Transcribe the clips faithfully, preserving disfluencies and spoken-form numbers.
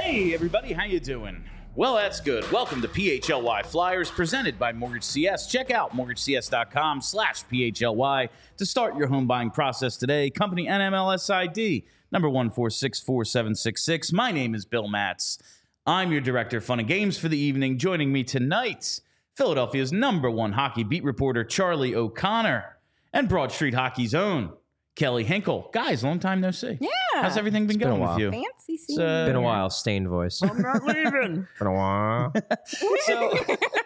Hey everybody, how you doing? Well, that's good. Welcome to P H L Y Flyers, presented by Mortgage C S. Check out mortgagecs.com slash PHLY to start your home buying process today. Company N M L S I D, number one four six four seven six six. My name is Bill Matz. I'm your director of fun and games for the evening. Joining me tonight, Philadelphia's number one hockey beat reporter, Charlie O'Connor, and Broad Street Hockey's own, Kelly Hinkle. Guys, long time no see. Yeah. How's everything been It's been going a with while. you? Fancy seeing So- you. Been a while, stained voice. I'm not leaving. Been a while. So,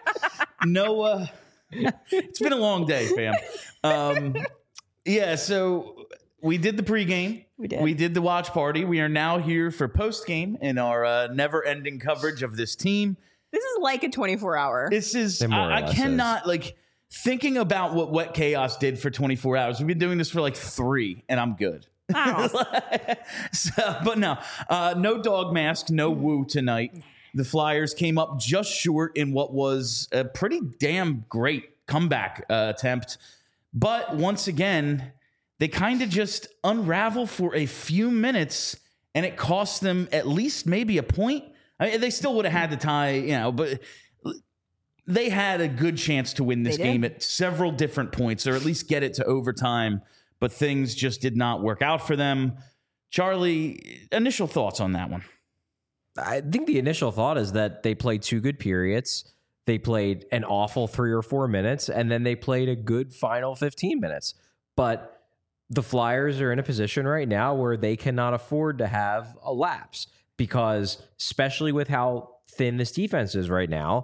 Noah, it's been a long day, fam. Um, yeah, so we did the pregame. We did. We did the watch party. We are now here for postgame in our uh, never-ending coverage of this team. This is like a twenty-four hour. This is, It more or I, I less cannot, like, thinking about what Wet Chaos did for twenty-four hours. We've been doing this for like three, and I'm good. Wow. So, but no, uh, no dog mask, no woo tonight. The Flyers came up just short in what was a pretty damn great comeback uh, attempt. But once again, they kind of just unravel for a few minutes, and it cost them at least maybe a point. I mean, they still would have had to tie, you know, but they had a good chance to win this They did. game at several different points, or at least get it to overtime. But things just did not work out for them. Charlie, initial thoughts on that one? I think the initial thought is that they played two good periods. They played an awful three or four minutes, and then they played a good final fifteen minutes. But the Flyers are in a position right now where they cannot afford to have a lapse because, especially with how thin this defense is right now,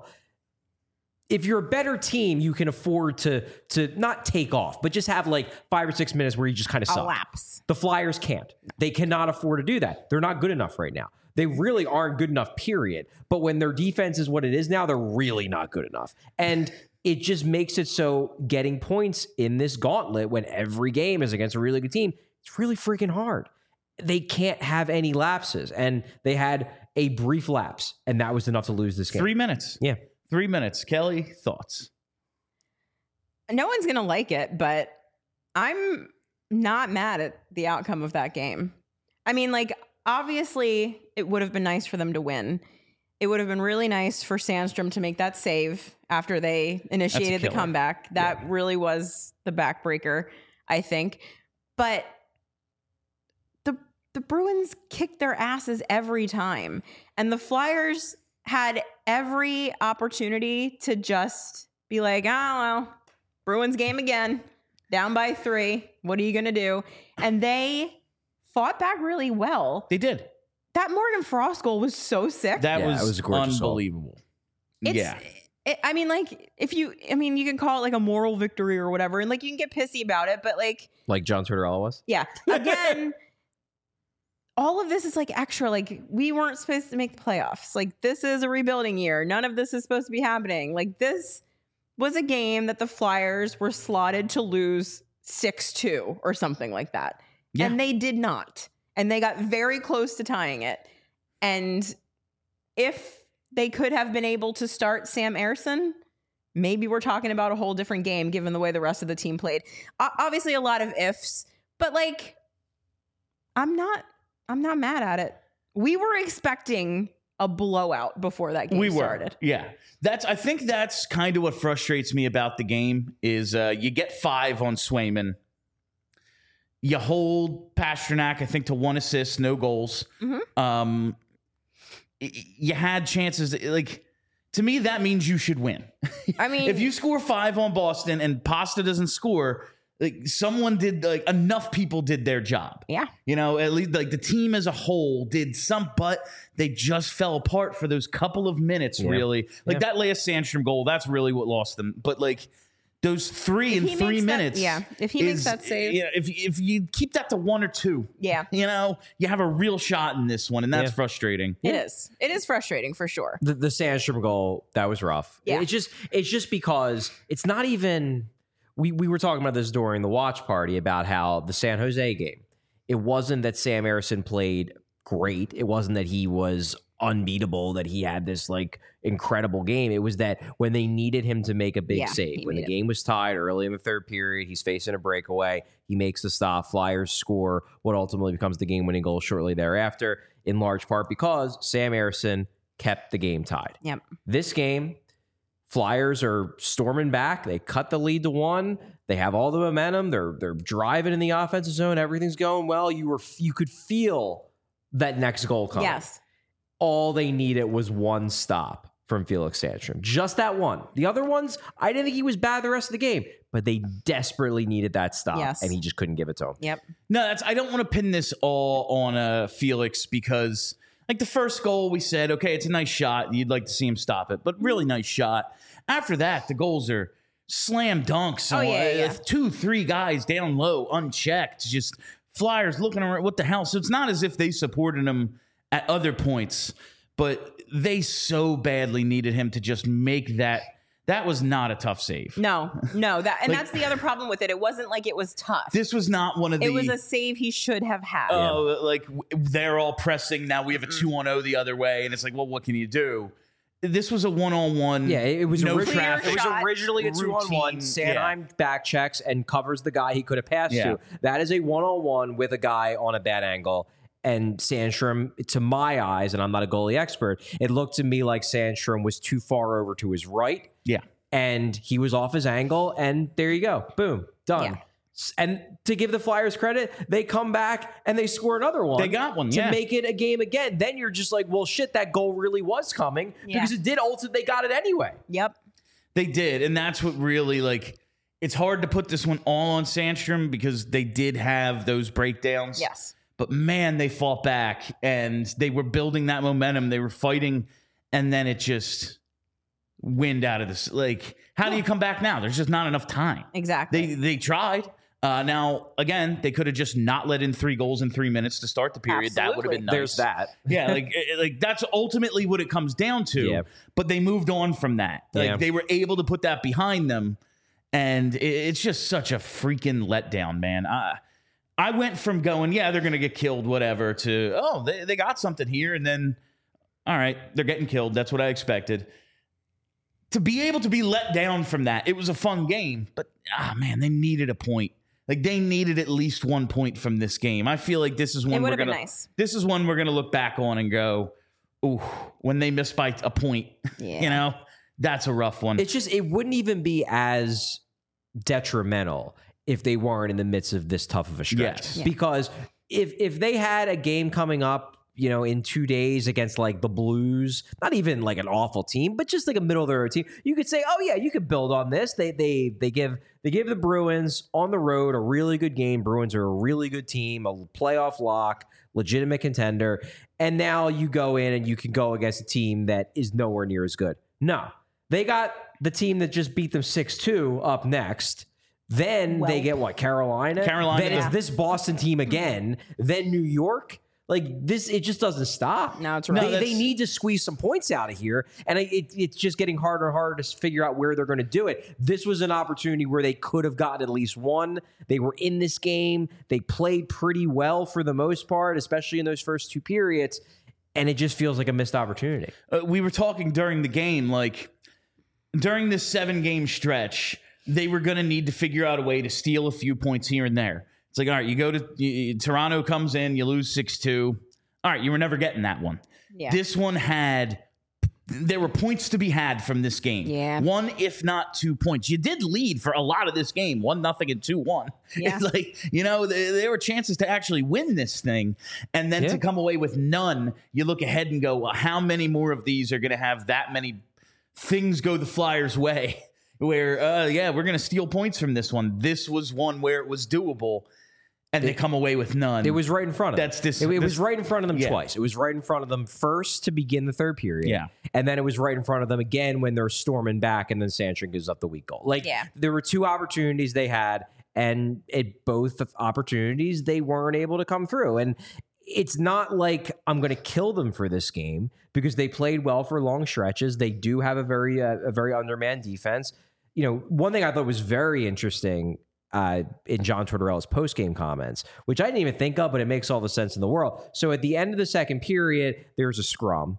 if you're a better team, you can afford to to not take off, but just have like five or six minutes where you just kind of A suck. lapse. The Flyers can't. They cannot afford to do that. They're not good enough right now. They really aren't good enough, period. But when their defense is what it is now, they're really not good enough. And it just makes it so getting points in this gauntlet when every game is against a really good team, it's really freaking hard. They can't have any lapses. And they had a brief lapse, and that was enough to lose this game. Three minutes. Yeah. Three minutes. Kelly, thoughts? No one's going to like it, but I'm not mad at the outcome of that game. I mean, like, obviously, it would have been nice for them to win. It would have been really nice for Sandstrom to make that save after they initiated the killer. comeback. That really was the backbreaker, I think. But the the Bruins kicked their asses every time. And the Flyers had every opportunity to just be like, oh, well, Bruins game again, down by three. What are you going to do? And they fought back really well. They did. That Morgan Frost goal was so sick. That Yeah, was, it was a gorgeous goal. unbelievable. It's, yeah. it, I mean, like, if you, I mean, you can call it like a moral victory or whatever, and like you can get pissy about it, but like, Like John Tortorella was. yeah, again, all of this is like extra. Like, we weren't supposed to make the playoffs. Like, this is a rebuilding year. None of this is supposed to be happening. Like, this was a game that the Flyers were slotted to lose six two or something like that. Yeah. And they did not. And they got very close to tying it. And if they could have been able to start Sam Ersson, maybe we're talking about a whole different game given the way the rest of the team played. O- obviously a lot of ifs, but like, I'm not I'm not mad at it. We were expecting a blowout before that game we were. started. Yeah. That's I think that's kind of what frustrates me about the game is uh, you get five on Swayman. You hold Pasternak, I think, to one assist, no goals. Mhm. Um, y- you had chances. Like, to me, that means you should win. I mean, If you score five on Boston and Pasta doesn't score, like someone did, like enough people did their job. yeah. You know, at least like the team as a whole did some, but they just fell apart for those couple of minutes, Yeah. really. Like Yeah. that last Sandstrom goal, that's really what lost them. But like those three If in he three makes that- minutes. yeah, if he makes is- that save. Yeah, if, if you keep that to one or two, Yeah. you know, you have a real shot in this one, and that's Yeah. frustrating. It is. It is frustrating for sure. The, the Sandstrom goal, that was rough. Yeah. It's just it's just because it's not even we we were talking about this during the watch party about how the San Jose game, it wasn't that Sam Ersson played great. It wasn't that he was unbeatable, that he had this like incredible game. It was that when they needed him to make a big Yeah, save, he when the made it. game was tied early in the third period, he's facing a breakaway, he makes the stop, Flyers score what ultimately becomes the game-winning goal shortly thereafter, in large part because Sam Ersson kept the game tied. Yep. This game, Flyers are storming back. They cut the lead to one. They have all the momentum. They're they're driving in the offensive zone. Everything's going well. You were you could feel that next goal coming. Yes. All they needed was one stop from Felix Sandstrom. Just that one. The other ones, I didn't think he was bad the rest of the game, but they desperately needed that stop, Yes. and he just couldn't give it to him. Yep. No, that's I don't want to pin this all on uh, Felix because like the first goal we said, okay, it's a nice shot. You'd like to see him stop it, but really nice shot. After that, the goals are slam dunks. Oh, on, yeah, yeah. uh, Two, three guys down low, unchecked. Just Flyers looking around. What the hell? So it's not as if they supported him at other points, but they so badly needed him to just make that. That was not a tough save. No, no, that and Like- that's the other problem with it. It wasn't like it was tough. This was not one of the. it was a save he should have had. Oh, like w- they're all pressing. Now we have a Mm-hmm. two on oh the other way, and it's like, well, what can you do? This was a one on one. Yeah, it was, no originally, traffic. it was shot. originally a two-on-one. Routine, Sanheim back checks and covers the guy he could have passed Yeah. to. That is a one-on-one with a guy on a bad angle. And Sandstrom, to my eyes, and I'm not a goalie expert, it looked to me like Sandstrom was too far over to his right, Yeah, and he was off his angle, and there you go. Boom. Done. Yeah. S- And to give the Flyers credit, they come back and they score another one. They got one, to yeah. make it a game again. Then you're just like, well, shit, that goal really was coming Yeah. because it did ultimately. They got it anyway. Yep. they did, and that's what really like. It's hard to put this one all on Sandstrom because they did have those breakdowns. Yes. But man, they fought back and they were building that momentum. They were fighting, and then it just wind out of this. Like, how do you come back now? There's just not enough time. Exactly. They they tried. Uh, now again, they could have just not let in three goals in three minutes to start the period. That would have been nice. There's that. Yeah, like eh, like that's ultimately what it comes down to. Yeah. But they moved on from that. Like Yeah. they were able to put that behind them, and it, it's just such a freaking letdown, man. I I went from going, yeah, they're gonna get killed, whatever, to oh, they they got something here, and then all right, they're getting killed. That's what I expected. To be able to be let down from that, it was a fun game, but ah man, they needed a point. Like they needed at least one point from this game. I feel like this is one It we're would have gonna. been nice. This is one we're gonna look back on and go, ooh, when they miss by a point, Yeah. you know, that's a rough one. It's just, it wouldn't even be as detrimental if they weren't in the midst of this tough of a stretch. Yes. Yeah. Because if if they had a game coming up, you know, in two days against like the Blues, not even like an awful team, but just like a middle of the road team, you could say, oh yeah, you could build on this. They they they give they give the Bruins on the road a really good game. Bruins are a really good team, a playoff lock, legitimate contender. And now you go in and you can go against a team that is nowhere near as good. No. They got the team that just beat them six two up next. Then Well- they get what? Carolina? Carolina. Then it's this Boston team again. Then New York. Like this, it just doesn't stop. No, it's They, right. No, they that's- need to squeeze some points out of here, and it, it, it's just getting harder and harder to figure out where they're going to do it. This was an opportunity where they could have gotten at least one. They were in this game. They played pretty well for the most part, especially in those first two periods, and it just feels like a missed opportunity. Uh, we were talking during the game, like during this seven game stretch, they were going to need to figure out a way to steal a few points here and there. It's like, all right, you go to you, Toronto comes in, you lose six two. All right, you were never getting that one. Yeah. This one had, there were points to be had from this game. Yeah. One, if not two points. You did lead for a lot of this game, one nothing and two one. Yeah. It's like, you know, there, there were chances to actually win this thing. And then Yeah. to come away with none, you look ahead and go, well, how many more of these are going to have that many things go the Flyers' way? Where, uh, yeah, we're going to steal points from this one. This was one where it was doable, and they come away with none. It was right in front of them. That's this- It, it this- was right in front of them Yeah. twice. It was right in front of them first to begin the third period. Yeah. And then it was right in front of them again when they're storming back, and then Sandstrom gives up the weak goal. Like, Yeah. there were two opportunities they had, and at both opportunities, they weren't able to come through. And it's not like I'm going to kill them for this game because they played well for long stretches. They do have a very, uh, a very undermanned defense. You know, one thing I thought was very interesting uh, in John Tortorella's post-game comments, which I didn't even think of, but it makes all the sense in the world. So at the end of the second period, there's a scrum,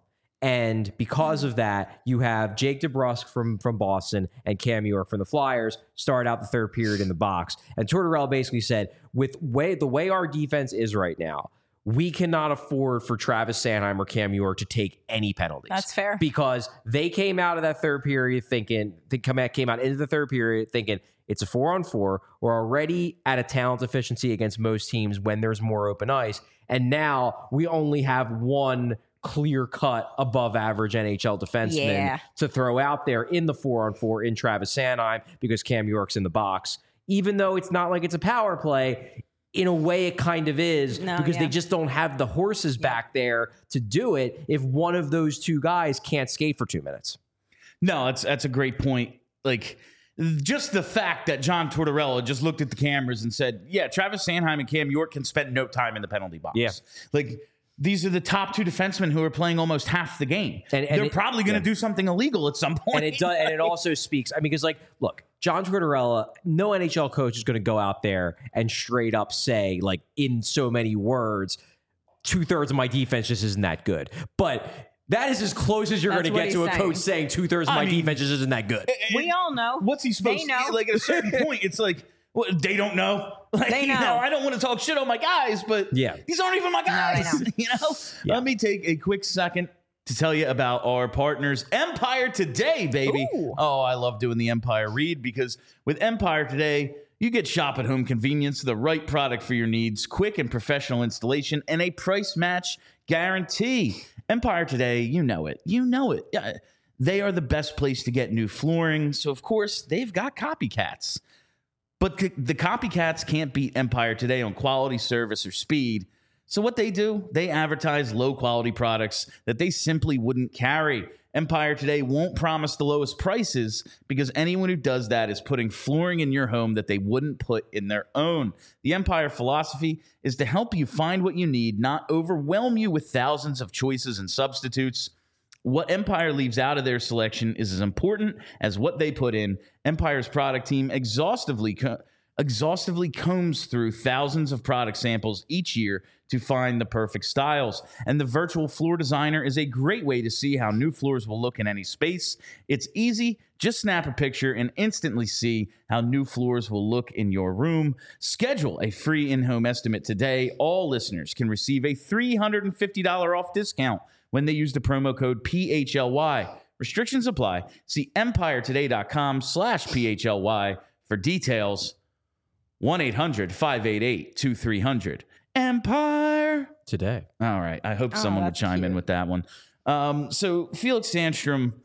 And because of that, you have Jake DeBrusk from, from Boston and Cam York from the Flyers start out the third period in the box. And Tortorella basically said, with way the way our defense is right now, we cannot afford for Travis Sanheim or Cam York to take any penalties. That's fair. Because they came out of that third period thinking, they come out, came out into the third period thinking it's a four on four. We're already at a talent deficiency against most teams when there's more open ice. And now we only have one clear cut above average N H L defenseman Yeah. to throw out there in the four on four in Travis Sanheim because Cam York's in the box. Even though it's not like it's a power play, in a way it kind of is No, because yeah. they just don't have the horses back there to do it if one of those two guys can't skate for two minutes. No, that's that's a great point. Like, just the fact that John Tortorella just looked at the cameras and said, yeah, Travis Sanheim and Cam York can spend no time in the penalty box. Yeah. Like, these are the top two defensemen who are playing almost half the game. And- and They're it- probably going to yeah. do something illegal at some point. And it does, and it also speaks. I mean, because like, look, John Tortorella, no N H L coach is going to go out there and straight up say, like, in so many words, two thirds of my defense just isn't that good. But that is as close as you're That's going to what get to he's a saying. coach saying two thirds of I my mean- defense just isn't that good. We all know. What's he supposed They to know. Like, at a certain point, it's like, well, they don't know. Like, They you know. I don't want to talk shit on my guys, but Yeah. these aren't even my they guys. know. You know? Yeah. Let me take a quick second to tell you about our partners, Empire Today, baby. Ooh. Oh, I love doing the Empire read because with Empire Today, you get shop at home convenience, the right product for your needs, quick and professional installation, and a price match guarantee. Empire Today, you know it. You know it. Yeah, they are the best place to get new flooring. So, of course, they've got copycats. But c- the copycats can't beat Empire Today on quality, service, or speed. So what they do, they advertise low-quality products that they simply wouldn't carry. Empire Today won't promise the lowest prices because anyone who does that is putting flooring in your home that they wouldn't put in their own. The Empire philosophy is to help you find what you need, not overwhelm you with thousands of choices and substitutes. What Empire leaves out of their selection is as important as what they put in. Empire's product team exhaustively co- exhaustively combs through thousands of product samples each year to find the perfect styles. And the virtual floor designer is a great way to see how new floors will look in any space. It's easy. Just snap a picture and instantly see how new floors will look in your room. Schedule a free in-home estimate today. All listeners can receive a three hundred fifty dollars off discount when they use the promo code P H L Y. Restrictions apply. See empiretoday.com slash PHLY for details. one eight hundred five eight eight two three zero zero. Empire. Today. All right. I hope Oh, someone would that's chime in cute. with that one. Um, so Felix Sandstrom,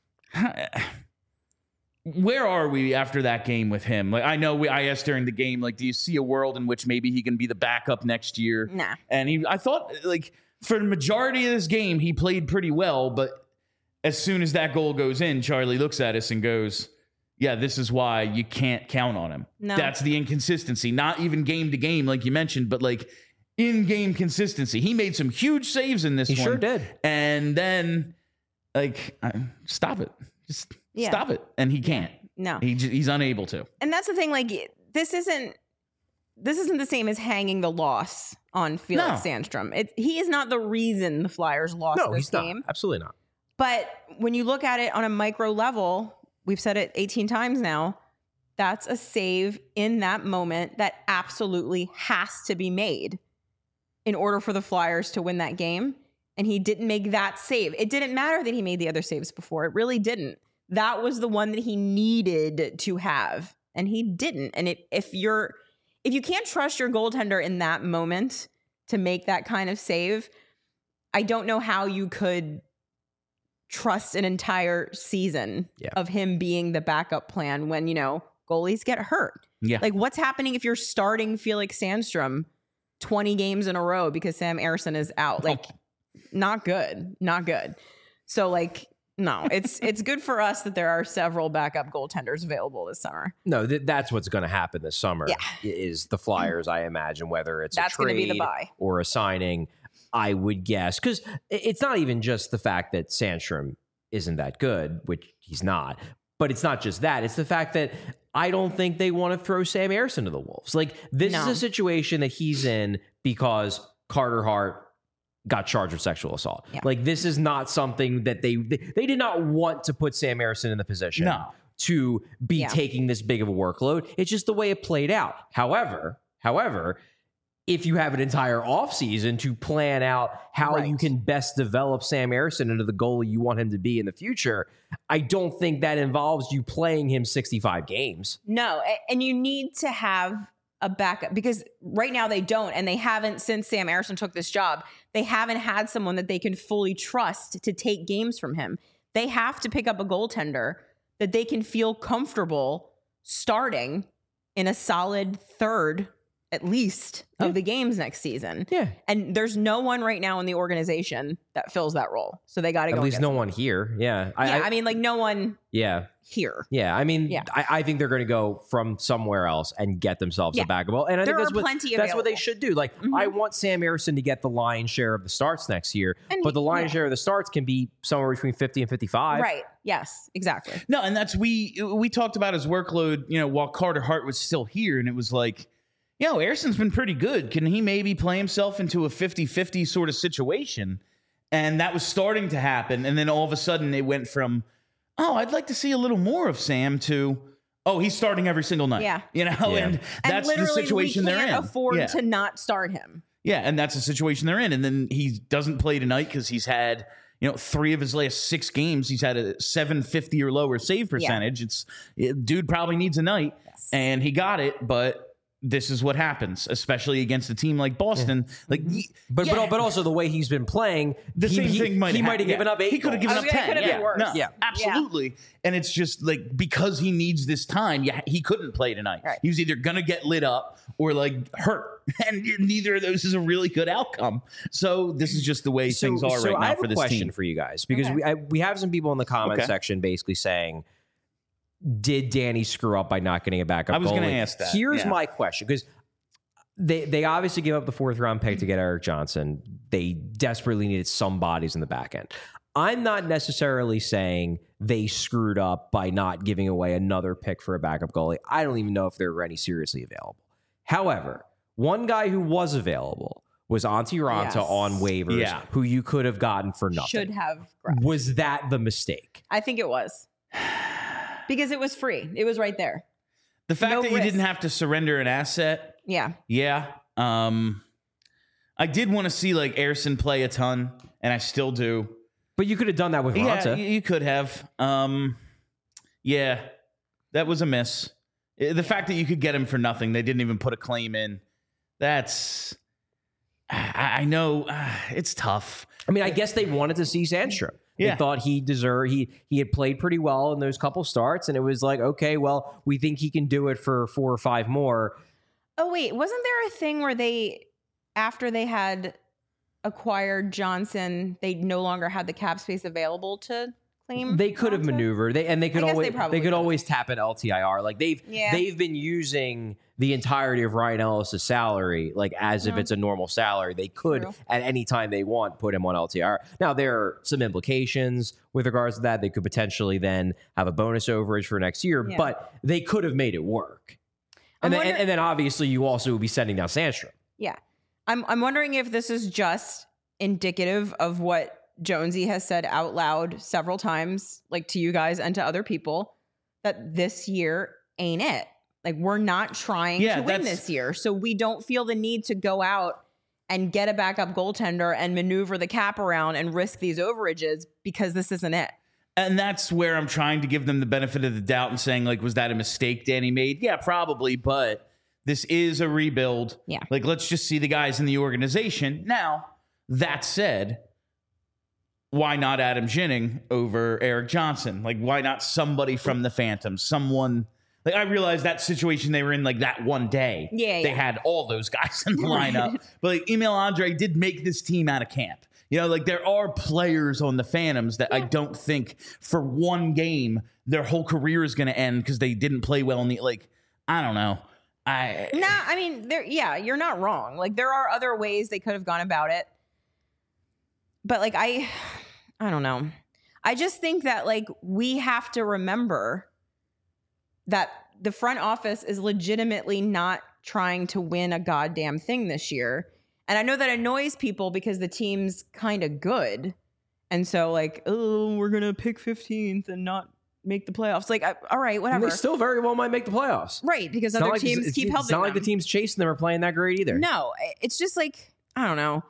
where are we after that game with him? Like, I know we, I asked during the game, like, do you see a world in which maybe he can be the backup next year? Nah. And he, I thought, like, for the majority of this game, he played pretty well. But as soon as that goal goes in, Charlie looks at us and goes, yeah, this is why you can't count on him. No. That's the inconsistency. Not even game to game, like you mentioned, but like in-game consistency. He made some huge saves in this He one. sure did. And then, like, uh, stop it. Just Yeah. stop it. And he can't. No. He j- he's unable to. And that's the thing, like, this isn't this isn't the same as hanging the loss on Felix No. Sandstrom. It, he is not the reason the Flyers lost No, this he's not. game. Absolutely not. But when you look at it on a micro level, we've said it eighteen times now, that's a save in that moment that absolutely has to be made in order for the Flyers to win that game. And he didn't make that save. It didn't matter that he made the other saves before. It really didn't. That was the one that he needed to have, and he didn't. And it, if you're if you can't trust your goaltender in that moment to make that kind of save, I don't know how you could trust an entire season Yeah. of him being the backup plan when, you know, goalies get hurt. Yeah. Like, what's happening if you're starting Felix Sandstrom twenty games in a row because Sam Ersson is out? Like, not good. Not good. So, like, no, it's it's good for us that there are several backup goaltenders available this summer. No, th- that's what's going to happen this summer. Yeah. Is the Flyers, I imagine, whether it's That's a gonna trade be the buy. or a signing, I would guess. Because it's not even just the fact that Sandstrom isn't that good, which he's not, but it's not just that. It's the fact that I don't think they want to throw Sam Ersson to the Wolves. Like, this No. is a situation that he's in because Carter Hart got charged with sexual assault. Yeah. Like this is not something that they, they they did not want to put Sam Harrison in the position No. to be Yeah. taking this big of a workload. It's just the way it played out. However, however, if you have an entire offseason to plan out how Right. you can best develop Sam Harrison into the goalie you want him to be in the future, I don't think that involves you playing him sixty-five games. No, a- and you need to have a backup because right now they don't, and they haven't since Sam Harrison took this job. They haven't had someone that they can fully trust to take games from him. They have to pick up a goaltender that they can feel comfortable starting in a solid third, at least, Yeah. of the games next season. Yeah. And there's no one right now in the organization that fills that role. So they got to go. At least and no get one here. Yeah. someone. Yeah, I, I mean, like no one yeah. here. Yeah. I mean, Yeah. I, I think they're going to go from somewhere else and get themselves Yeah. a backup goal. And I There think that's are what, plenty that's what they available. should do. Like, Mhm. I want Sam Harrison to get the lion's share of the starts next year, And but he- the lion's yeah. share of the starts can be somewhere between fifty and fifty-five. Right. Yes, exactly. No, and that's we we talked about his workload, you know, while Carter Hart was still here, and it was like, you know, Harrison's been pretty good. Can he maybe play himself into a fifty-fifty sort of situation? And that was starting to happen, and then all of a sudden it went from, oh, I'd like to see a little more of Sam to, oh, he's starting every single night. Yeah. You know, Yeah. and that's and the literally, situation we they're can't in. afford yeah. to not start him. Yeah, and that's the situation they're in. And then he doesn't play tonight because he's had, you know, three of his last six games, he's had a seven fifty or lower save percentage. It's it, dude probably needs a night, Yes. and he got it, but this is what happens, especially against a team like Boston. Like, y- But, yeah, but but also the way he's been playing, the he, same he, thing might he have might have given yeah. up eight. He could have goals. given I up was gonna- ten. it could have yeah, been worse. No, Yeah. absolutely. And it's just like because he needs this time, yeah, he couldn't play tonight. Right. He was either gonna get lit up or like hurt, and neither of those is a really good outcome. So this is just the way So- things are so right I now have for a this question team. for you guys because Okay. we I, we have some people in the comment Okay. section basically saying, did Danny screw up by not getting a backup? I was gonna goalie? ask that, Here's yeah. my question because they they obviously gave up the fourth round pick to get Eric Johnson. They desperately needed some bodies in the back end. I'm not necessarily saying they screwed up by not giving away another pick for a backup goalie. I don't even know if there were any seriously available. However, one guy who was available was Antti Ranta Yes. on waivers, Yeah. who you could have gotten for nothing. Should have. grabbed. Was that the mistake? I think it was because it was free. It was right there. The fact No that you risk. didn't have to surrender an asset, Yeah. yeah. Um, I did want to see like Harrison play a ton, and I still do. But you could have done that with Yeah, Ranta. you, you could have. Um, yeah, that was a miss. Uh, The fact that you could get him for nothing, they didn't even put a claim in. That's, I, I know uh, it's tough. I mean, I guess they wanted to see Sandstrom. They Yeah. thought he deserved, he he had played pretty well in those couple starts, and it was like, okay, well, we think he can do it for four or five more. Oh wait, wasn't there a thing where they, after they had acquired Johnson, they no longer had the cap space available to claim? They could have Ranta? maneuvered, they and they could I guess always they they, probably could could've. always tap an L T I R. Like they've Yeah. they've been using the entirety of Ryan Ellis's salary like as if Yeah. it's a normal salary. They could True. at any time they want put him on L T I R. Now there are some implications with regards to that. They could potentially then have a bonus overage for next year, Yeah. but they could have made it work. I'm And then, wonder- and, and then obviously you also would be sending down Sandstrom. Yeah. I'm I'm wondering if this is just indicative of what Jonesy has said out loud several times, like to you guys and to other people, that this year ain't it. Like we're not trying Yeah, to win that's- this year. So we don't feel the need to go out and get a backup goaltender and maneuver the cap around and risk these overages because this isn't it. And that's where I'm trying to give them the benefit of the doubt and saying, like, was that a mistake Danny made? Yeah, probably, but this is a rebuild. Yeah. Like, let's just see the guys in the organization. Now, that said, why not Adam Ginning over Eric Johnson? Like, why not somebody from the Phantoms? Someone, like, I realized that situation they were in, like, that one day. Yeah, They yeah. had all those guys in the lineup. But, like, Emil Andre did make this team out of camp. You know, like there are players on the Phantoms that I don't think for one game their whole career is going to end because they didn't play well in the like. I don't know. I Nah, I mean, there. Yeah, you're not wrong. Like there are other ways they could have gone about it, but like I, I don't know. I just think that like we have to remember that the front office is legitimately not trying to win a goddamn thing this year, And I know that annoys people because the team's kind of good. And so like, oh, we're going to pick fifteenth and not make the playoffs. Like, I, all right, whatever. And they still very well might make the playoffs. Right, because It's not other like- teams it's, keep it's helping not like them. the teams chasing them are playing that great either. No, it's just like, I don't know.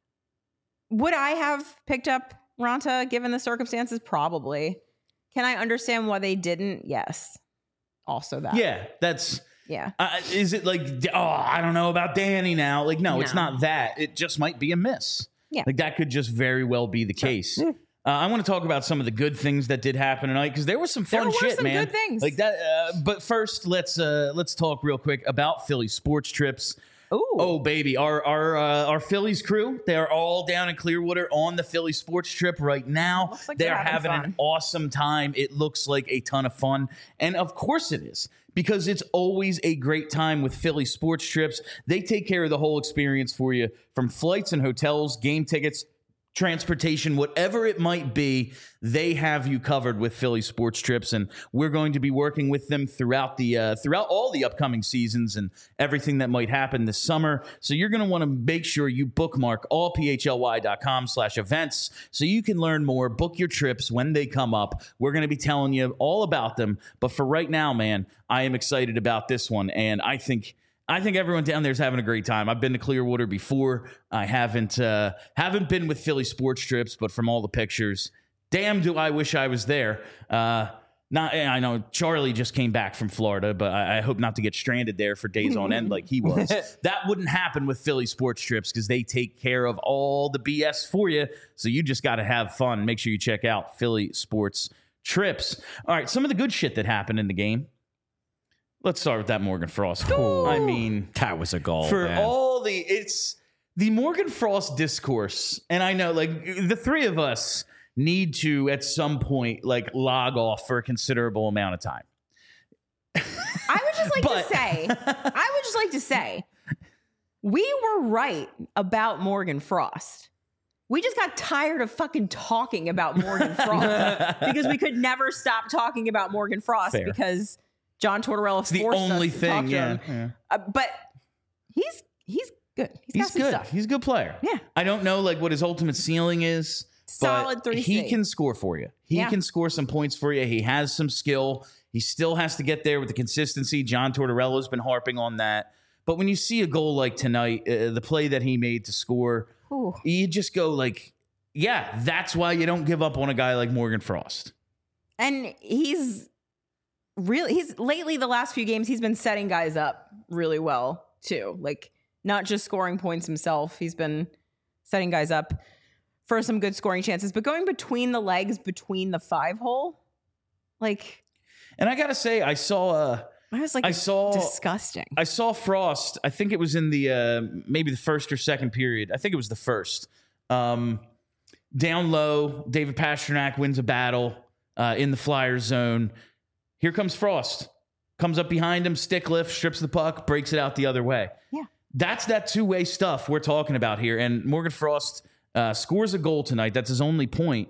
Would I have picked up Ronta given the circumstances? Probably. Can I understand why they didn't? Yes. Also that. Yeah, that's. Yeah. Uh, is it like, oh, I don't know about Danny now? Like, no, it's No. not that. It just might be a miss. Yeah. Like, that could just very well be the case. Uh, I want to talk about some of the good things that did happen tonight because there was some fun There were shit, some man. good things. Like that. Uh, but first, let's uh, let's talk real quick about Philly sports trips. Ooh. Oh baby, our our uh, our Phillies crew, they are all down in Clearwater on the Philly sports trip right now. Looks like they they're are having having an fun. awesome time. It looks like a ton of fun, and of course it is because it's always a great time with Philly sports trips. They take care of the whole experience for you, from flights and hotels, game tickets, transportation, whatever it might be, they have you covered with Philly sports trips, and we're going to be working with them throughout the uh, throughout all the upcoming seasons and everything that might happen this summer. So you're going to want to make sure you bookmark all p h l y dot com slash events so you can learn more, book your trips when they come up. We're going to be telling you all about them, but for right now, man, I am excited about this one, and I think I think everyone down there is having a great time. I've been to Clearwater before. I haven't uh, haven't been with Philly sports trips, but from all the pictures, damn, do I wish I was there. Uh, not, I know Charlie just came back from Florida, but I, I hope not to get stranded there for days on end like he was. That wouldn't happen with Philly sports trips because they take care of all the B S for you. So you just got to have fun. Make sure you check out Philly sports trips. All right, some of the good shit that happened in the game. Let's start with that Morgan Frost. I mean, That was a goal. for man. all the it's the Morgan Frost discourse, and I know like the three of us need to at some point like log off for a considerable amount of time. I would just like But- to say, I would just like to say, we were right about Morgan Frost. We just got tired of fucking talking about Morgan Frost because we could never stop talking about Morgan Frost Fair. because John Tortorella It's the forced only us to thing, talk to yeah. him. yeah. Uh, but he's he's good. He's, got He's some good. stuff. He's a good player. Yeah. I don't know like what his ultimate ceiling is. Solid but three He C. can score for you. He Yeah. can score some points for you. He has some skill. He still has to get there with the consistency. John Tortorella's been harping on that. But when you see a goal like tonight, uh, the play that he made to score, Ooh. you just go like, yeah, that's why you don't give up on a guy like Morgan Frost. And he's really he's lately the last few games he's been setting guys up really well too. Like not just scoring points himself. He's been setting guys up for some good scoring chances, but going between the legs between the five hole, like And I got to say, I saw uh, I was like I saw disgusting. I saw Frost. I think it was in the uh, maybe the first or second period. I think it was the first. Um, down low, David Pasternak wins a battle uh, in the Flyers zone. Here comes Frost. Comes up behind him, stick lift, strips the puck, breaks it out the other way. Yeah. That's that two-way stuff we're talking about here. And Morgan Frost uh, scores a goal tonight. That's his only point.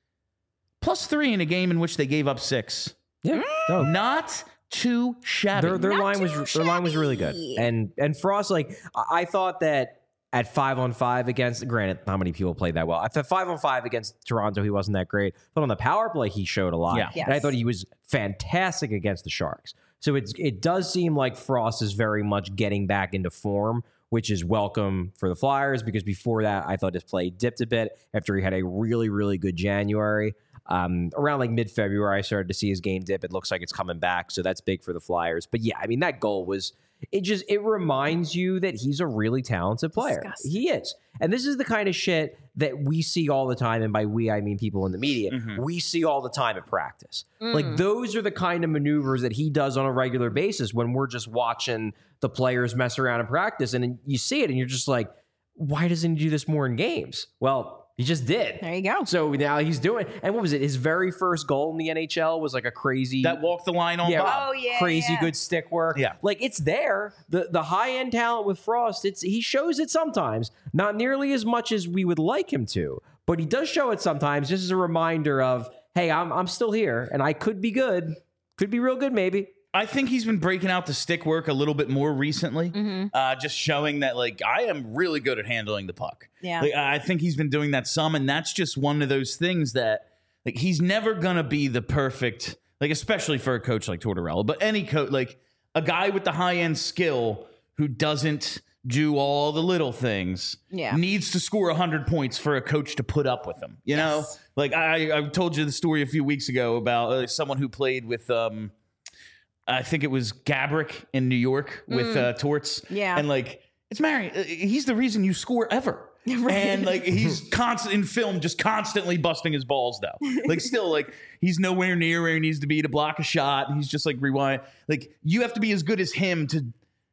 Plus three in a game in which they gave up six. Yeah. No. Not too shabby. Their their Not line was too their line was really good, shabby. and and Frost, like I I thought that at five on five against, granted, not many people played that well. At the five on five against Toronto, he wasn't that great, but on the power play, he showed a lot. Yeah. Yes. And I thought he was fantastic against the Sharks. So it's it does seem like Frost is very much getting back into form, which is welcome for the Flyers because before that, I thought his play dipped a bit after he had a really really good January. Um, around like mid-February, I started to see his game dip. It looks like it's coming back, so that's big for the Flyers. But yeah, I mean, that goal was, it just, it reminds you that he's a really talented player. Disgusting. He is. And this is the kind of shit that we see all the time, and by we, I mean people in the media, Mm-hmm. we see all the time at practice. Like, those are the kind of maneuvers that he does on a regular basis when we're just watching the players mess around in practice, and you see it, and you're just like, why doesn't he do this more in games? Well, he just did. There you go. So now he's doing, and what was it? His very first goal in the N H L was like a crazy, that walk the line on yeah, Bob. Oh, yeah, crazy yeah. good stick work. Yeah. Like it's there. The the high end talent with Frost, it's he shows it sometimes, not nearly as much as we would like him to, but he does show it sometimes. Just as a reminder of, hey, I'm I'm still here, and I could be good, could be real good, maybe. I think he's been breaking out the stick work a little bit more recently, Mm-hmm. uh, just showing that like I am really good at handling the puck. Yeah. Like, I think he's been doing that some, and that's just one of those things that like he's never gonna be the perfect, like especially for a coach like Tortorella, but any coach, like a guy with the high end skill who doesn't do all the little things, Yeah. needs to score one hundred points for a coach to put up with him. You know, Yes. like I, I told you the story a few weeks ago about uh, someone who played with. Um, I think it was Gabrick in New York with uh, Torts. Yeah. And like, it's Mary. uh, He's the reason you score ever. Right. And like, he's constant in film, just constantly busting his balls though. Like still like he's nowhere near where he needs to be to block a shot. And he's just like rewind. Like you have to be as good as him to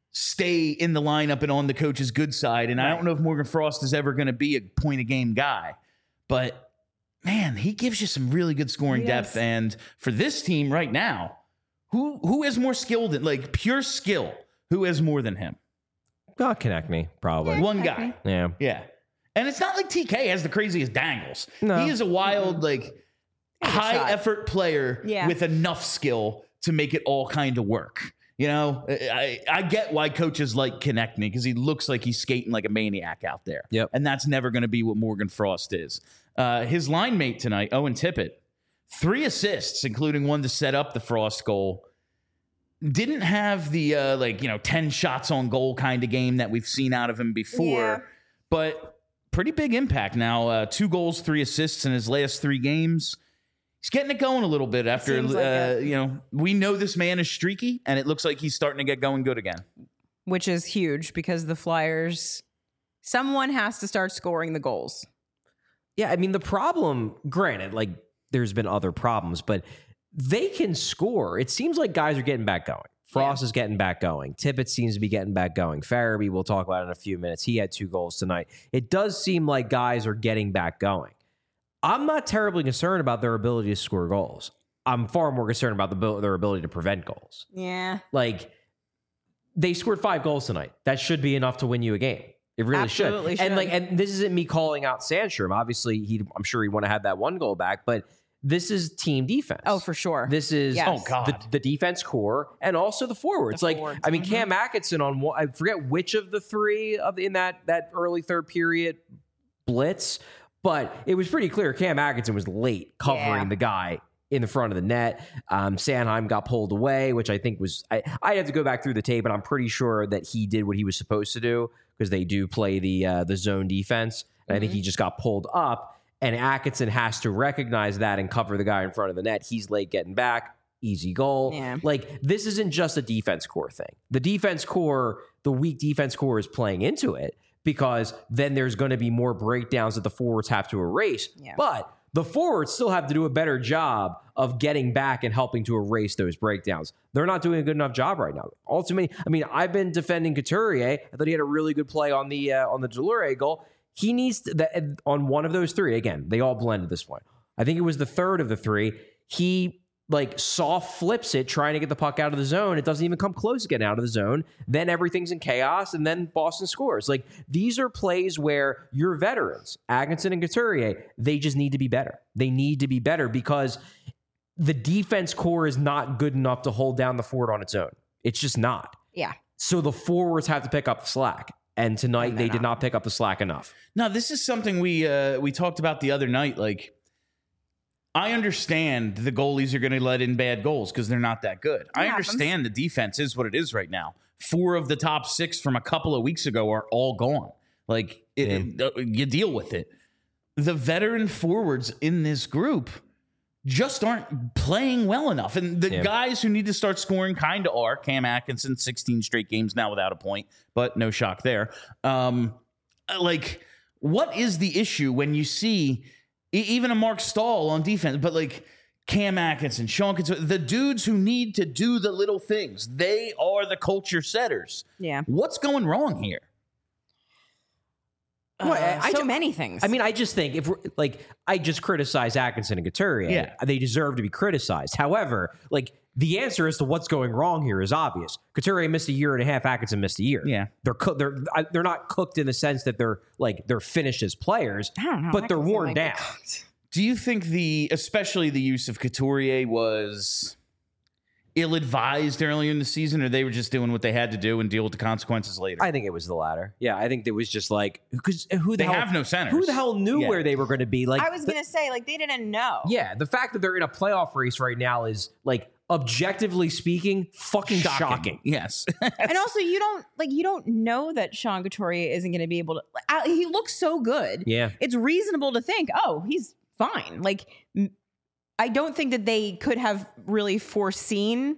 stay in the lineup and on the coach's good side. And I don't know if Morgan Frost is ever going to be a point a game guy, but man, he gives you some really good scoring He depth. does. And for this team right now, Who who is more skilled than like pure skill? Who has more than him? God, connect me, probably. One Connect guy. me. Yeah. Yeah. And it's not like T K has the craziest dangles. No. He is a wild, like Take a high shot. effort player Yeah. with enough skill to make it all kind of work. You know, I, I get why coaches like Connect Me because he looks like he's skating like a maniac out there. Yep. And that's never going to be what Morgan Frost is. Uh, his line mate tonight, Owen Tippett, three assists, including one to set up the Frost goal. Didn't have the uh, like, you know, ten shots on goal kind of game that we've seen out of him before, Yeah. but pretty big impact now. Uh, two goals, three assists in his last three games. He's getting it going a little bit after, Seems like uh, it. you know, we know this man is streaky, and it looks like he's starting to get going good again. Which is huge because the Flyers, someone has to start scoring the goals. Yeah, I mean, the problem, granted, like there's been other problems, but they can score. It seems like guys are getting back going. Frost is getting back going. Tippett seems to be getting back going. Farabee, we'll talk about in a few minutes. He had two goals tonight. It does seem like guys are getting back going. I'm not terribly concerned about their ability to score goals. I'm far more concerned about the, their ability to prevent goals. Yeah. Like, they scored five goals tonight. That should be enough to win you a game. It really Absolutely should. And should. like, and this isn't me calling out Sandstrom. Obviously, he, I'm sure he want to have that one goal back, but this is team defense. Oh, for sure. This is Yes. Oh, God. the, the defense core and also the forwards. The like, forwards, I mean, mhm. Cam Atkinson on one, I forget which of the three of the, in that that early third period blitz, but it was pretty clear Cam Atkinson was late covering Yeah. the guy in the front of the net. Um, Sanheim got pulled away, which I think was I I have to go back through the tape, and I'm pretty sure that he did what he was supposed to do because they do play the uh, the zone defense, and I think he just got pulled up. And Atkinson has to recognize that and cover the guy in front of the net. He's late getting back. Easy goal. Yeah. Like, this isn't just a defense core thing. The defense core, the weak defense core is playing into it because then there's going to be more breakdowns that the forwards have to erase. Yeah. But the forwards still have to do a better job of getting back and helping to erase those breakdowns. They're not doing a good enough job right now. Ultimately, I mean, I've been defending Couturier. I thought he had a really good play on the uh, on the Delure goal. He needs to, that on one of those three. Again, they all blend at this point. I think it was the third of the three. He like soft flips it, trying to get the puck out of the zone. It doesn't even come close to getting out of the zone. Then everything's in chaos, and then Boston scores. Like, these are plays where your veterans, Atkinson and Couturier, they just need to be better. They need to be better because the defense core is not good enough to hold down the forward on its own. It's just not. Yeah. So the forwards have to pick up the slack. And tonight And they they're did not. not pick up the slack enough. Now, this is something we uh, we talked about the other night. Like, I understand the goalies are going to let in bad goals because they're not that good. I happens. understand the defense is what it is right now. Four of the top six from a couple of weeks ago are all gone. Like, it, it- uh, you deal with it. The veteran forwards in this group just aren't playing well enough. And the Yeah. guys who need to start scoring kind of are. Cam Atkinson, sixteen straight games now without a point, but no shock there. Um, like, what is the issue when you see e- even a Mark Stahl on defense, but like Cam Atkinson, Sean Couturier, the dudes who need to do the little things, they are the culture setters. Yeah. What's going wrong here? Well, Uh, I so ju- many things. I mean, I just think if we're like, I just criticize Atkinson and Couturier. Yeah. They deserve to be criticized. However, like, the answer as to what's going wrong here is obvious. Couturier missed a year and a half. Atkinson missed a year. Yeah. they're co- they're I- they're not cooked in the sense that they're like they're finished as players, I don't know. but I they're can feel worn like down. they're- Do you think the, especially the use of Couturier was, ill-advised earlier in the season, or they were just doing what they had to do and deal with the consequences later? I think it was the latter. Yeah, I think it was just like because who the they hell have no centers. Who the hell knew Yeah. where they were going to be? Like I was the- gonna say, like, they didn't know. yeah, the fact that they're in a playoff race right now is like objectively speaking, fucking shocking. Shocking. Yes. And also, you don't like you don't know that Sean Couturier isn't going to be able to. I, he looks so good. Yeah. It's reasonable to think, oh, he's fine. Like, m- I don't think that they could have really foreseen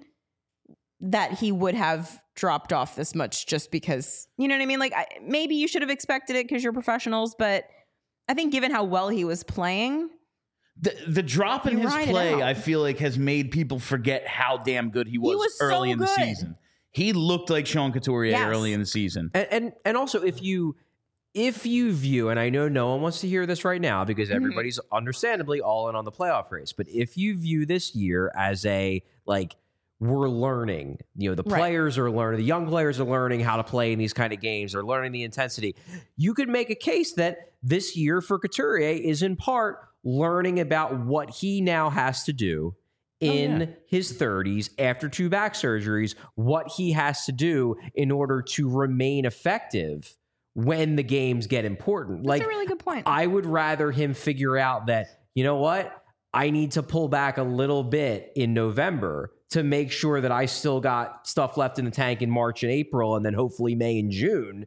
that he would have dropped off this much just because, you know what I mean? Like, I, maybe you should have expected it because you're professionals, but I think given how well he was playing, The, the drop in You his ride it play, out. I feel like, has made people forget how damn good he was, was so early in the good. season. He looked like Sean Couturier Yes. early in the season. And, and and also if you if you view, and I know no one wants to hear this right now because Mm-hmm. everybody's understandably all in on the playoff race, but if you view this year as a like we're learning, you know, the Right. players are learning, the young players are learning how to play in these kind of games, they're learning the intensity. You could make a case that this year for Couturier is in part learning about what he now has to do in yeah. his thirties after two back surgeries, what he has to do in order to remain effective when the games get important. that's Like a really good point. I would rather him figure out that, you know what? I need to pull back a little bit in November to make sure that I still got stuff left in the tank in March and April and then hopefully May and June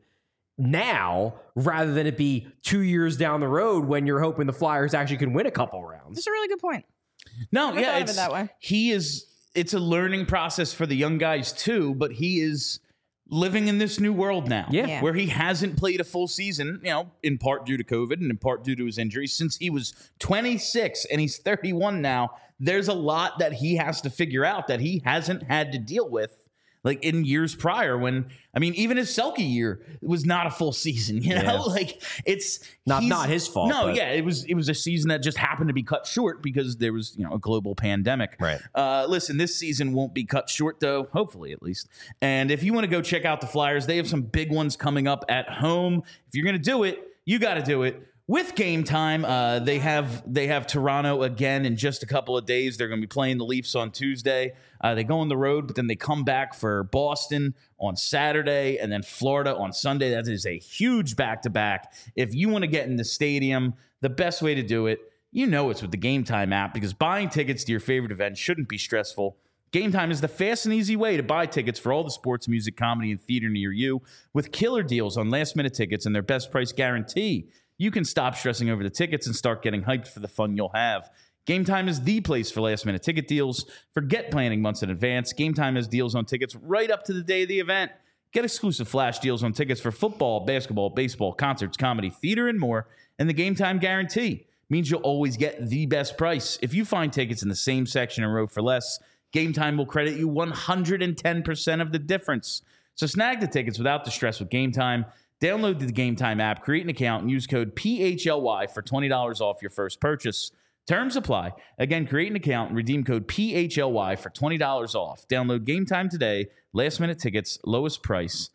now, rather than it be two years down the road when you're hoping the Flyers actually can win a couple rounds. That's a really good point. No, Never yeah, thought of it it's, that way. he is. It's a learning process for the young guys too, but he is living in this new world now, Yeah. Yeah. where he hasn't played a full season, you know, in part due to COVID and in part due to his injury since he was twenty-six and he's thirty-one now. There's a lot that he has to figure out that he hasn't had to deal with. Like in years prior, when I mean, even his Selke year was not a full season. You know, Yeah. like it's Not- he's- not his fault, No, but- yeah, it was it was a season that just happened to be cut short because there was you know a global pandemic. Right. Uh, listen, this season won't be cut short though, hopefully at least. And if you want to go check out the Flyers, they have some big ones coming up at home. If you're gonna do it, you got to do it. With Game Time, uh, they have they have Toronto again in just a couple of days. They're going to be playing the Leafs on Tuesday. Uh, they go on the road, but then they come back for Boston on Saturday and then Florida on Sunday. That is a huge back-to-back. If you want to get in the stadium, the best way to do it, you know it's with the Game Time app because buying tickets to your favorite event shouldn't be stressful. Game Time is the fast and easy way to buy tickets for all the sports, music, comedy, and theater near you with killer deals on last-minute tickets and their best price guarantee. You can stop stressing over the tickets and start getting hyped for the fun you'll have. Game Time is the place for last-minute ticket deals. Forget planning months in advance. Game Time has deals on tickets right up to the day of the event. Get exclusive flash deals on tickets for football, basketball, baseball, concerts, comedy, theater, and more. And the Game Time guarantee means you'll always get the best price. If you find tickets in the same section and row for less, Game Time will credit you one hundred ten percent of the difference. So snag the tickets without the stress with Game Time. Download the Game Time app, create an account, and use code P H L Y for twenty dollars off your first purchase. Terms apply. Again, create an account and redeem code P H L Y for twenty dollars off. Download Game Time today. Last minute tickets, lowest price,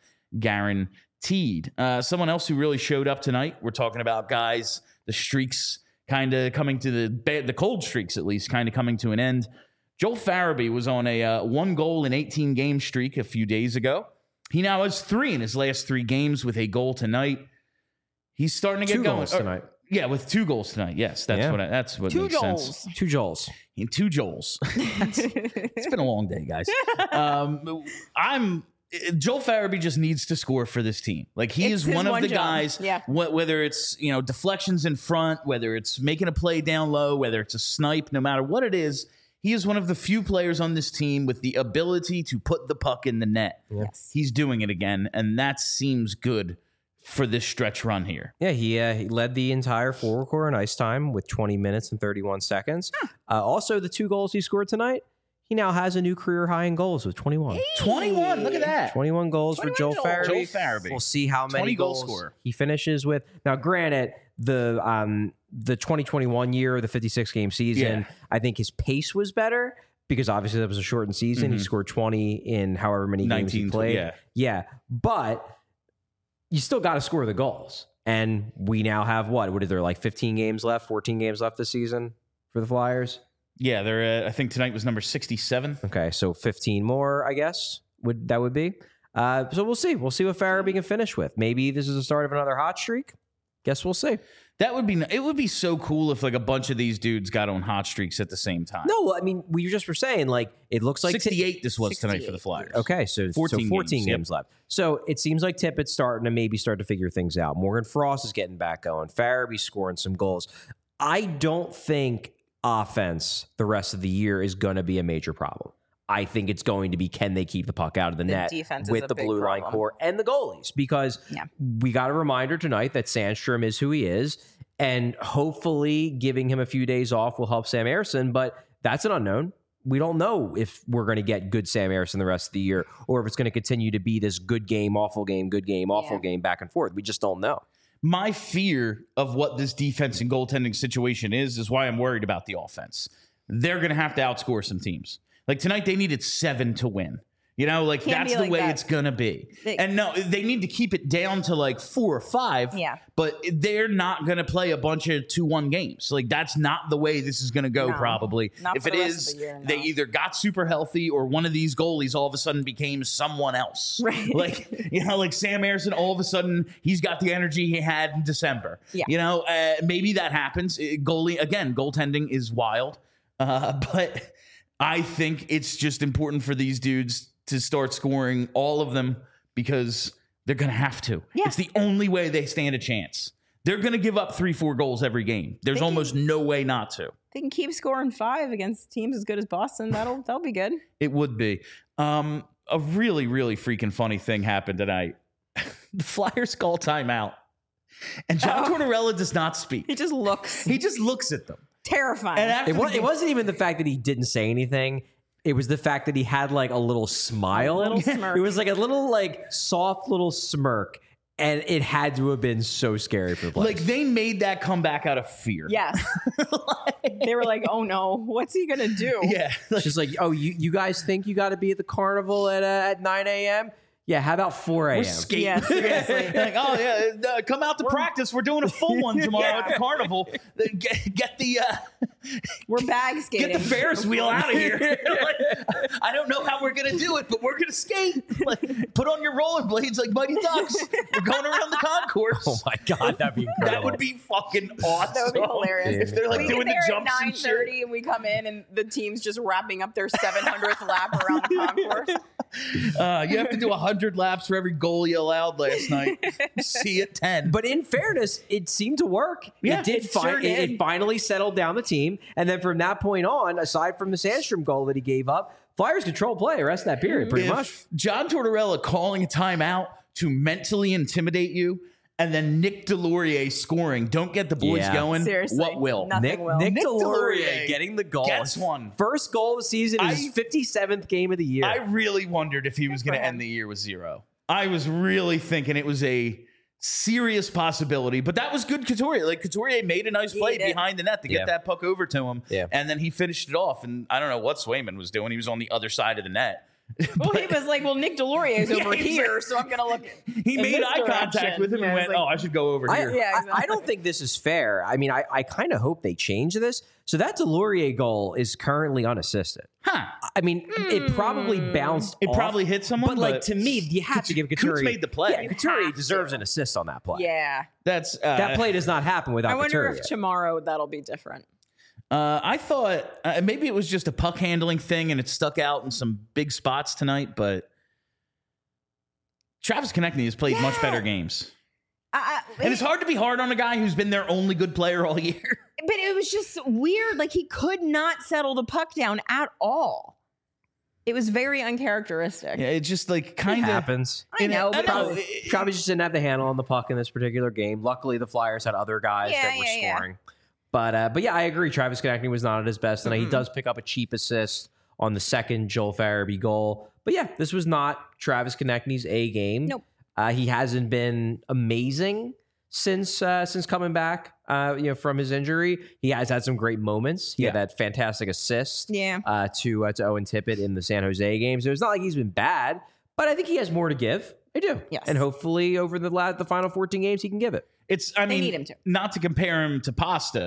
guaranteed. Uh, someone else who really showed up tonight, we're talking about guys, the streaks kind of coming to the, ba- the cold streaks at least, kind of coming to an end. Joel Farabee was on a uh, one goal in eighteen game streak a few days ago. He now has three in his last three games with a goal tonight. He's starting to get Two going. goals Or- tonight. yeah, with two goals tonight. Yes, that's Yeah. what I, that's what Two makes goals. sense. Two Joels. In two Joels. It's been a long day, guys. Um, I'm Joel Farabee just needs to score for this team. Like he It's is his one of one the job. guys. Yeah. wh- whether it's you know deflections in front, whether it's making a play down low, whether it's a snipe, no matter what it is, he is one of the few players on this team with the ability to put the puck in the net. Yes. He's doing it again, and that seems good for this stretch run here. Yeah, he, uh, he led the entire forward core in ice time with twenty minutes and thirty-one seconds. Uh, also, the two goals he scored tonight, he now has a new career high in goals with twenty-one. twenty-one. Look at that. twenty-one goals for Joel twenty-one Farabee. Joel Farabee. We'll see how many twenty goal goals scorer. he finishes with. Now, granted, the um, the twenty twenty-one year, the fifty-six game season, Yeah. I think his pace was better because obviously that was a shortened season. He Mhm. scored twenty in however many games he nineteen, played. yeah. Yeah, but you still got to score the goals. And we now have what? What are there like fifteen games left, fourteen games left this season for the Flyers? Yeah, they're at, I think tonight was number sixty-seven. Okay, so fifteen more, I guess, would that would be. Uh, so we'll see. We'll see what Farabee can finish with. Maybe this is the start of another hot streak. Guess we'll see. That would be, it would be so cool if like a bunch of these dudes got on hot streaks at the same time. No, I mean, we just were saying, like, it looks like sixty-eight this was tonight for the Flyers. Okay, so fourteen, so fourteen games, games, yep. left. So it seems like Tippett's starting to maybe start to figure things out. Morgan Frost is getting back going. Farabee scoring some goals. I don't think offense the rest of the year is going to be a major problem. I think it's going to be, can they keep the puck out of the, The net defense is with a the big blue line problem. core and the goalies? Because Yeah. we got a reminder tonight that Sandstrom is who he is, and hopefully giving him a few days off will help Sam Ersson, but that's an unknown. We don't know if we're going to get good Sam Ersson the rest of the year, or if it's going to continue to be this good game, awful game, good game, awful Yeah. game, back and forth. We just don't know. My fear of what this defense and goaltending situation is, is why I'm worried about the offense. They're going to have to outscore some teams. Like tonight, they needed seven to win. You know, like Can't that's be the like way that. it's going to be. They- and no, they need to keep it down to like four or five. Yeah. But they're not going to play a bunch of two one games. Like that's not the way this is going to go, No. probably. Not if for it the rest is, of the year, no. they either got super healthy or one of these goalies all of a sudden became someone else. Right. Like, you know, like Sam Ersson, all of a sudden, he's got the energy he had in December. Yeah. You know, uh, maybe that happens. Uh, Goalie, again, goaltending is wild. Uh, but I think it's just important for these dudes to start scoring, all of them, because they're going to have to. Yeah. It's the only way they stand a chance. They're going to give up three, four goals every game. There's They can- almost no way not to. They can keep scoring five against teams as good as Boston. That'll that'll be good. It would be. Um, a really, really freaking funny thing happened tonight. The Flyers call timeout, and John Oh. Tortorella does not speak. He just looks He just looks at them. terrifying. And after It, the was, it game- wasn't even the fact that he didn't say anything. It was the fact that he had like a little smile. A little smirk. It was like a little like soft little smirk. And it had to have been so scary for the players. like they made that comeback out of fear. yes. They were like, oh no, what's he going to do? Yeah. It's just like, oh, you, you guys think you got to be at the carnival at uh, at nine a.m.? Yeah, how about four a.m.? We're skating. Yeah, seriously. like, oh yeah, uh, come out to practice. We're doing a full one tomorrow at the carnival. Then Get, get the uh, We're bag skating. get the Ferris wheel out of here. Like, I don't know how we're gonna do it, but we're gonna skate. Like, put on your rollerblades like Mighty Ducks. We're going around the concourse. Oh my God, that'd be incredible. That would be fucking awesome. That would be hilarious. If they're like we doing get the there jumps at and nine shit. thirty and we come in and the team's just wrapping up their seven hundredth lap around the concourse. Uh, you have to do one hundred laps for every goal you allowed last night. See at ten. But in fairness, it seemed to work. Yeah, it did. it fi- sure it, did. it finally settled down the team, and then from that point on, aside from the Sandstrom goal that he gave up, Flyers control play the rest of that period, pretty if much. John Tortorella calling a timeout to mentally intimidate you, and then Nick Delorier scoring, don't get the boys Yeah. going. Seriously, What will? nothing Nick, will. Nick, Nick Delorier Delorier getting the goal. gets one. First goal of the season is I- his fifty-seventh game of the year. I really wondered if he was Good going for to him. end the year with zero. I was really thinking it was a serious possibility, but that was good Couturier. Like Couturier made a nice He play did. behind the net to get Yeah. that puck over to him, Yeah. and then he finished it off. And I don't know what Swayman was doing. He was on the other side of the net. Well, he was like, well, Nick Delorier is Yeah, over he's here, like- so I'm going to look. He in made this eye contact direction. with him and Yeah, went, it's like- "Oh, I should go over I, here." Yeah, I- I, exactly. don't think this is fair. I mean, I, I kind of hope they change this. So that Delorier goal is currently unassisted. Huh? I mean, it probably bounced It off, probably hit someone, But, like, but to me, you have to give Coots Couturier. made the play. Yeah, You Couturier have deserves to. an assist on that play. Yeah. That's uh, That play does not happen without I wonder Couturier. if tomorrow that'll be different. Uh, I thought uh, maybe it was just a puck handling thing and it stuck out in some big spots tonight, but Travis Konechny has played much Yeah. better games. I, I, And it's hard to be hard on a guy who's been their only good player all year. But it was just weird. Like he could not settle the puck down at all. It was very uncharacteristic. Yeah, it just like It kind of happens. I know, I but know. it was- It- Probably just didn't have the handle on the puck in this particular game. Luckily, the Flyers had other guys Yeah, that were yeah, yeah. scoring. But uh, but yeah, I agree. Travis Konechny was not at his best, and he Mhm. does pick up a cheap assist on the second Joel Farabee goal. But yeah, this was not Travis Konechny's A game. Nope. Uh, he hasn't been amazing since uh, since coming back. Uh, you know, from his injury, he has had some great moments. He had Yeah. that fantastic assist Yeah. uh, to uh, to Owen Tippett in the San Jose game. So it's not like he's been bad, but I think he has more to give. I do. Yes. And hopefully over the la- the final fourteen games, he can give it. it's I They mean need him to. not to compare him to Pasta,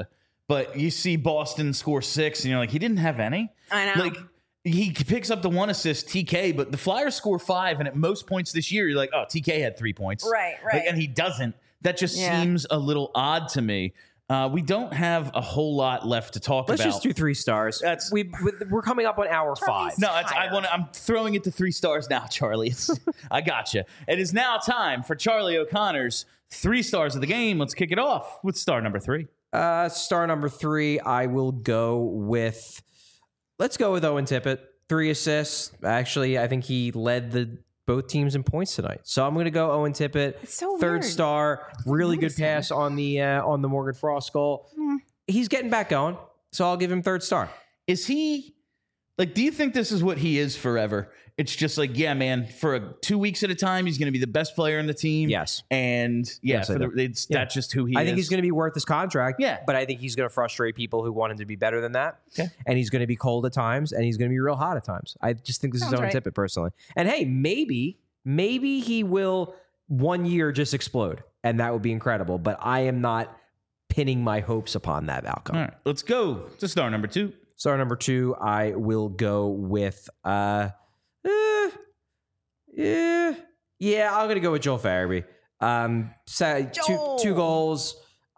but you see Boston score six, and you're like, he didn't have any. I know. Like, he picks up the one assist, T K, but the Flyers score five, and at most points this year, you're like, oh, T K had three points. Right, right. Like, and he doesn't. That just Yeah. seems a little odd to me. Uh, we don't have a whole lot left to talk Let's about. just do three stars. That's- we we're coming up on hour Charlie's- five. No, it's, I tired. want. I'm throwing it to three stars now, Charlie. It's, I gotcha. It is now time for Charlie O'Connor's three stars of the game. Let's kick it off with star number three. Uh, star number three, I will go with. Let's go with Owen Tippett. Three assists. Actually, I think he led the both teams in points tonight. So I'm going to go Owen Tippett. It's so Third weird. star. Really good notice him. pass on the uh, on the Morgan Frost goal. Hmm. He's getting back going. So I'll give him third star. Is he like? Do you think this is what he is forever? It's just like, yeah, man. For a, two weeks at a time, he's going to be the best player in the team. Yes. and yeah, Yes, I for the, do. it's Yeah. that's just who he I is. think he's going to be worth his contract. Yeah. But I think he's going to frustrate people who want him to be better than that. Okay. And he's going to be cold at times, and he's going to be real hot at times. I just think this Sounds is Owen right. Tippett personally. And hey, maybe, maybe he will one year just explode, and that would be incredible. But I am not pinning my hopes upon that outcome. All right, let's go to star number two. Star number two, I will go with uh, eh, yeah, yeah. I'm gonna go with Joel Farabee. Um, so two Joel. two goals.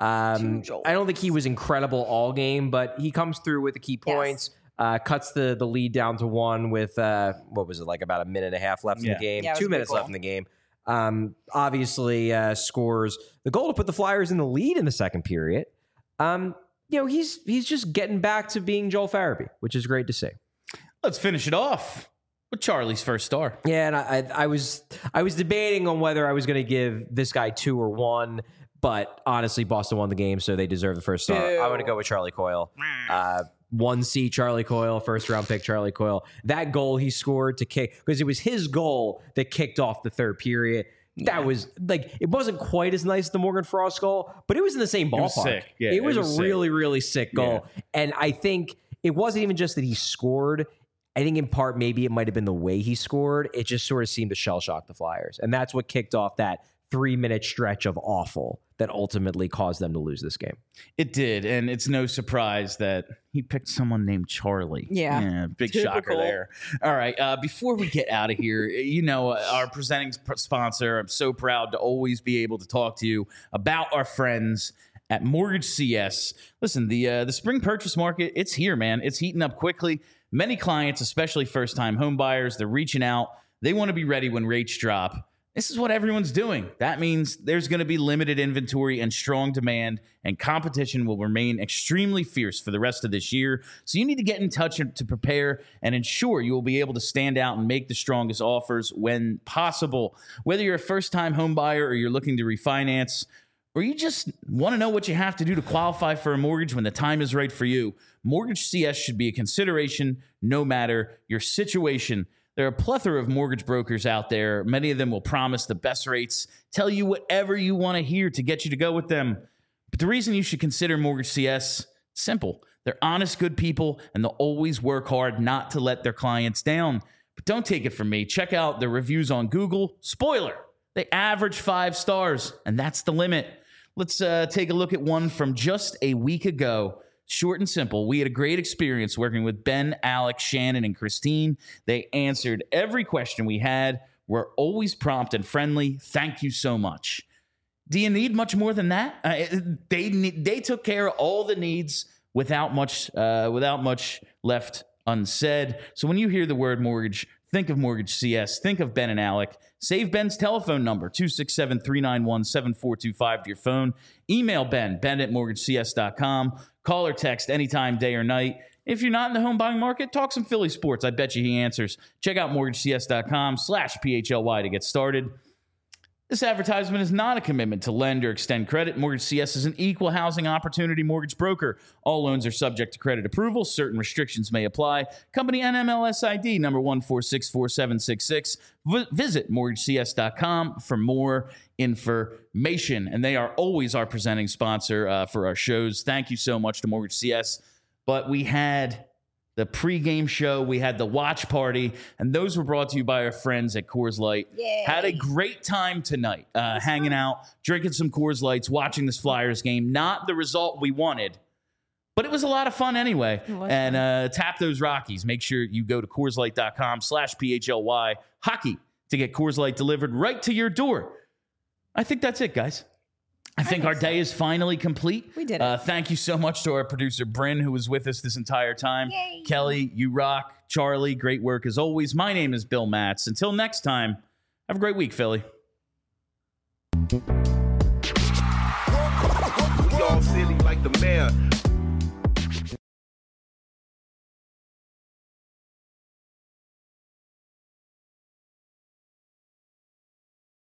Um, Two Joels. I don't think he was incredible all game, but he comes through with the key Yes. points. Uh, cuts the the lead down to one with uh, what was it like about a minute and a half left in Yeah. the game. Yeah, it was Two a good minutes goal. left in the game. Um, obviously uh, scores the goal to put the Flyers in the lead in the second period. Um, you know, he's he's just getting back to being Joel Farabee, which is great to see. Let's finish it off with Charlie's first star. Yeah, and I, I, I was I was debating on whether I was going to give this guy two or one, but honestly, Boston won the game, so they deserve the first star. Boo. I want to go with Charlie Coyle. Uh, one C Charlie Coyle, first round pick Charlie Coyle. That goal he scored to kick, because it was his goal that kicked off the third period. That was like, it wasn't quite as nice as the Morgan Frost goal, but it was in the same ballpark. was sick. Yeah, it was it was a sick. really, really sick goal. And I think it wasn't even just that he scored. I think in part, maybe it might have been the way he scored. It just sort of seemed to shell shock the Flyers. And that's what kicked off that three minute stretch of awful that ultimately caused them to lose this game. It did, and it's no surprise that he picked someone named Charlie. Yeah. big shocker Typical. there. All right, uh, before we get out of here, you know, uh, our presenting sp- sponsor, I'm so proud to always be able to talk to you about our friends at Mortgage C S. Listen, the uh, the spring purchase market, it's here, man. It's heating up quickly. Many clients, especially first-time home buyers, they're reaching out. They want to be ready when rates drop. This is what everyone's doing. That means there's going to be limited inventory and strong demand, and competition will remain extremely fierce for the rest of this year. So you need to get in touch to prepare and ensure you will be able to stand out and make the strongest offers when possible. Whether you're a first-time home buyer or you're looking to refinance, or you just want to know what you have to do to qualify for a mortgage when the time is right for you, Mortgage C S should be a consideration no matter your situation. There are a plethora of mortgage brokers out there. Many of them will promise the best rates, tell you whatever you want to hear to get you to go with them. But the reason you should consider Mortgage C S, simple. They're honest, good people, and they'll always work hard not to let their clients down. But don't take it from me. Check out the reviews on Google. Spoiler, they average five stars, and that's the limit. Let's uh, take a look at one from just a week ago. Short and simple. We had a great experience working with Ben, Alex, Shannon, and Christine. They answered every question we had. We're always prompt and friendly. Thank you so much. Do you need much more than that? Uh, they they took care of all the needs without much uh, without much left unsaid. So when you hear the word mortgage, think of Mortgage C S. Think of Ben and Alec. Save Ben's telephone number, two six seven, three nine one, seven four two five to your phone. Email Ben, ben at mortgage c s dot com. Call or text anytime, day or night. If you're not in the home buying market, talk some Philly sports. I bet you he answers. Check out mortgage c s dot com slash P H L Y to get started. This advertisement is not a commitment to lend or extend credit. Mortgage C S is an equal housing opportunity mortgage broker. All loans are subject to credit approval. Certain restrictions may apply. Company N M L S I D number one four six four seven six six. V- visit mortgage c s dot com for more information. And they are always our presenting sponsor uh, for our shows. Thank you so much to Mortgage C S. But we had the pregame show, we had the watch party, and those were brought to you by our friends at Coors Light. Yay. Had a great time tonight, uh, hanging out, drinking some Coors Lights, watching this Flyers game. Not the result we wanted, But it was a lot of fun anyway. was And uh, tap those Rockies. Make sure you go to CoorsLight.com slash PHLY hockey to get Coors Light delivered right to your door. I think that's it, guys. I think, I think our day so. is finally complete. We did it. Uh, thank you so much to our producer, Bryn, who was with us this entire time. Yay. Kelly, you rock. Charlie, great work as always. My name is Bill Matz. Until next time, have a great week, Philly. We all silly like the mayor.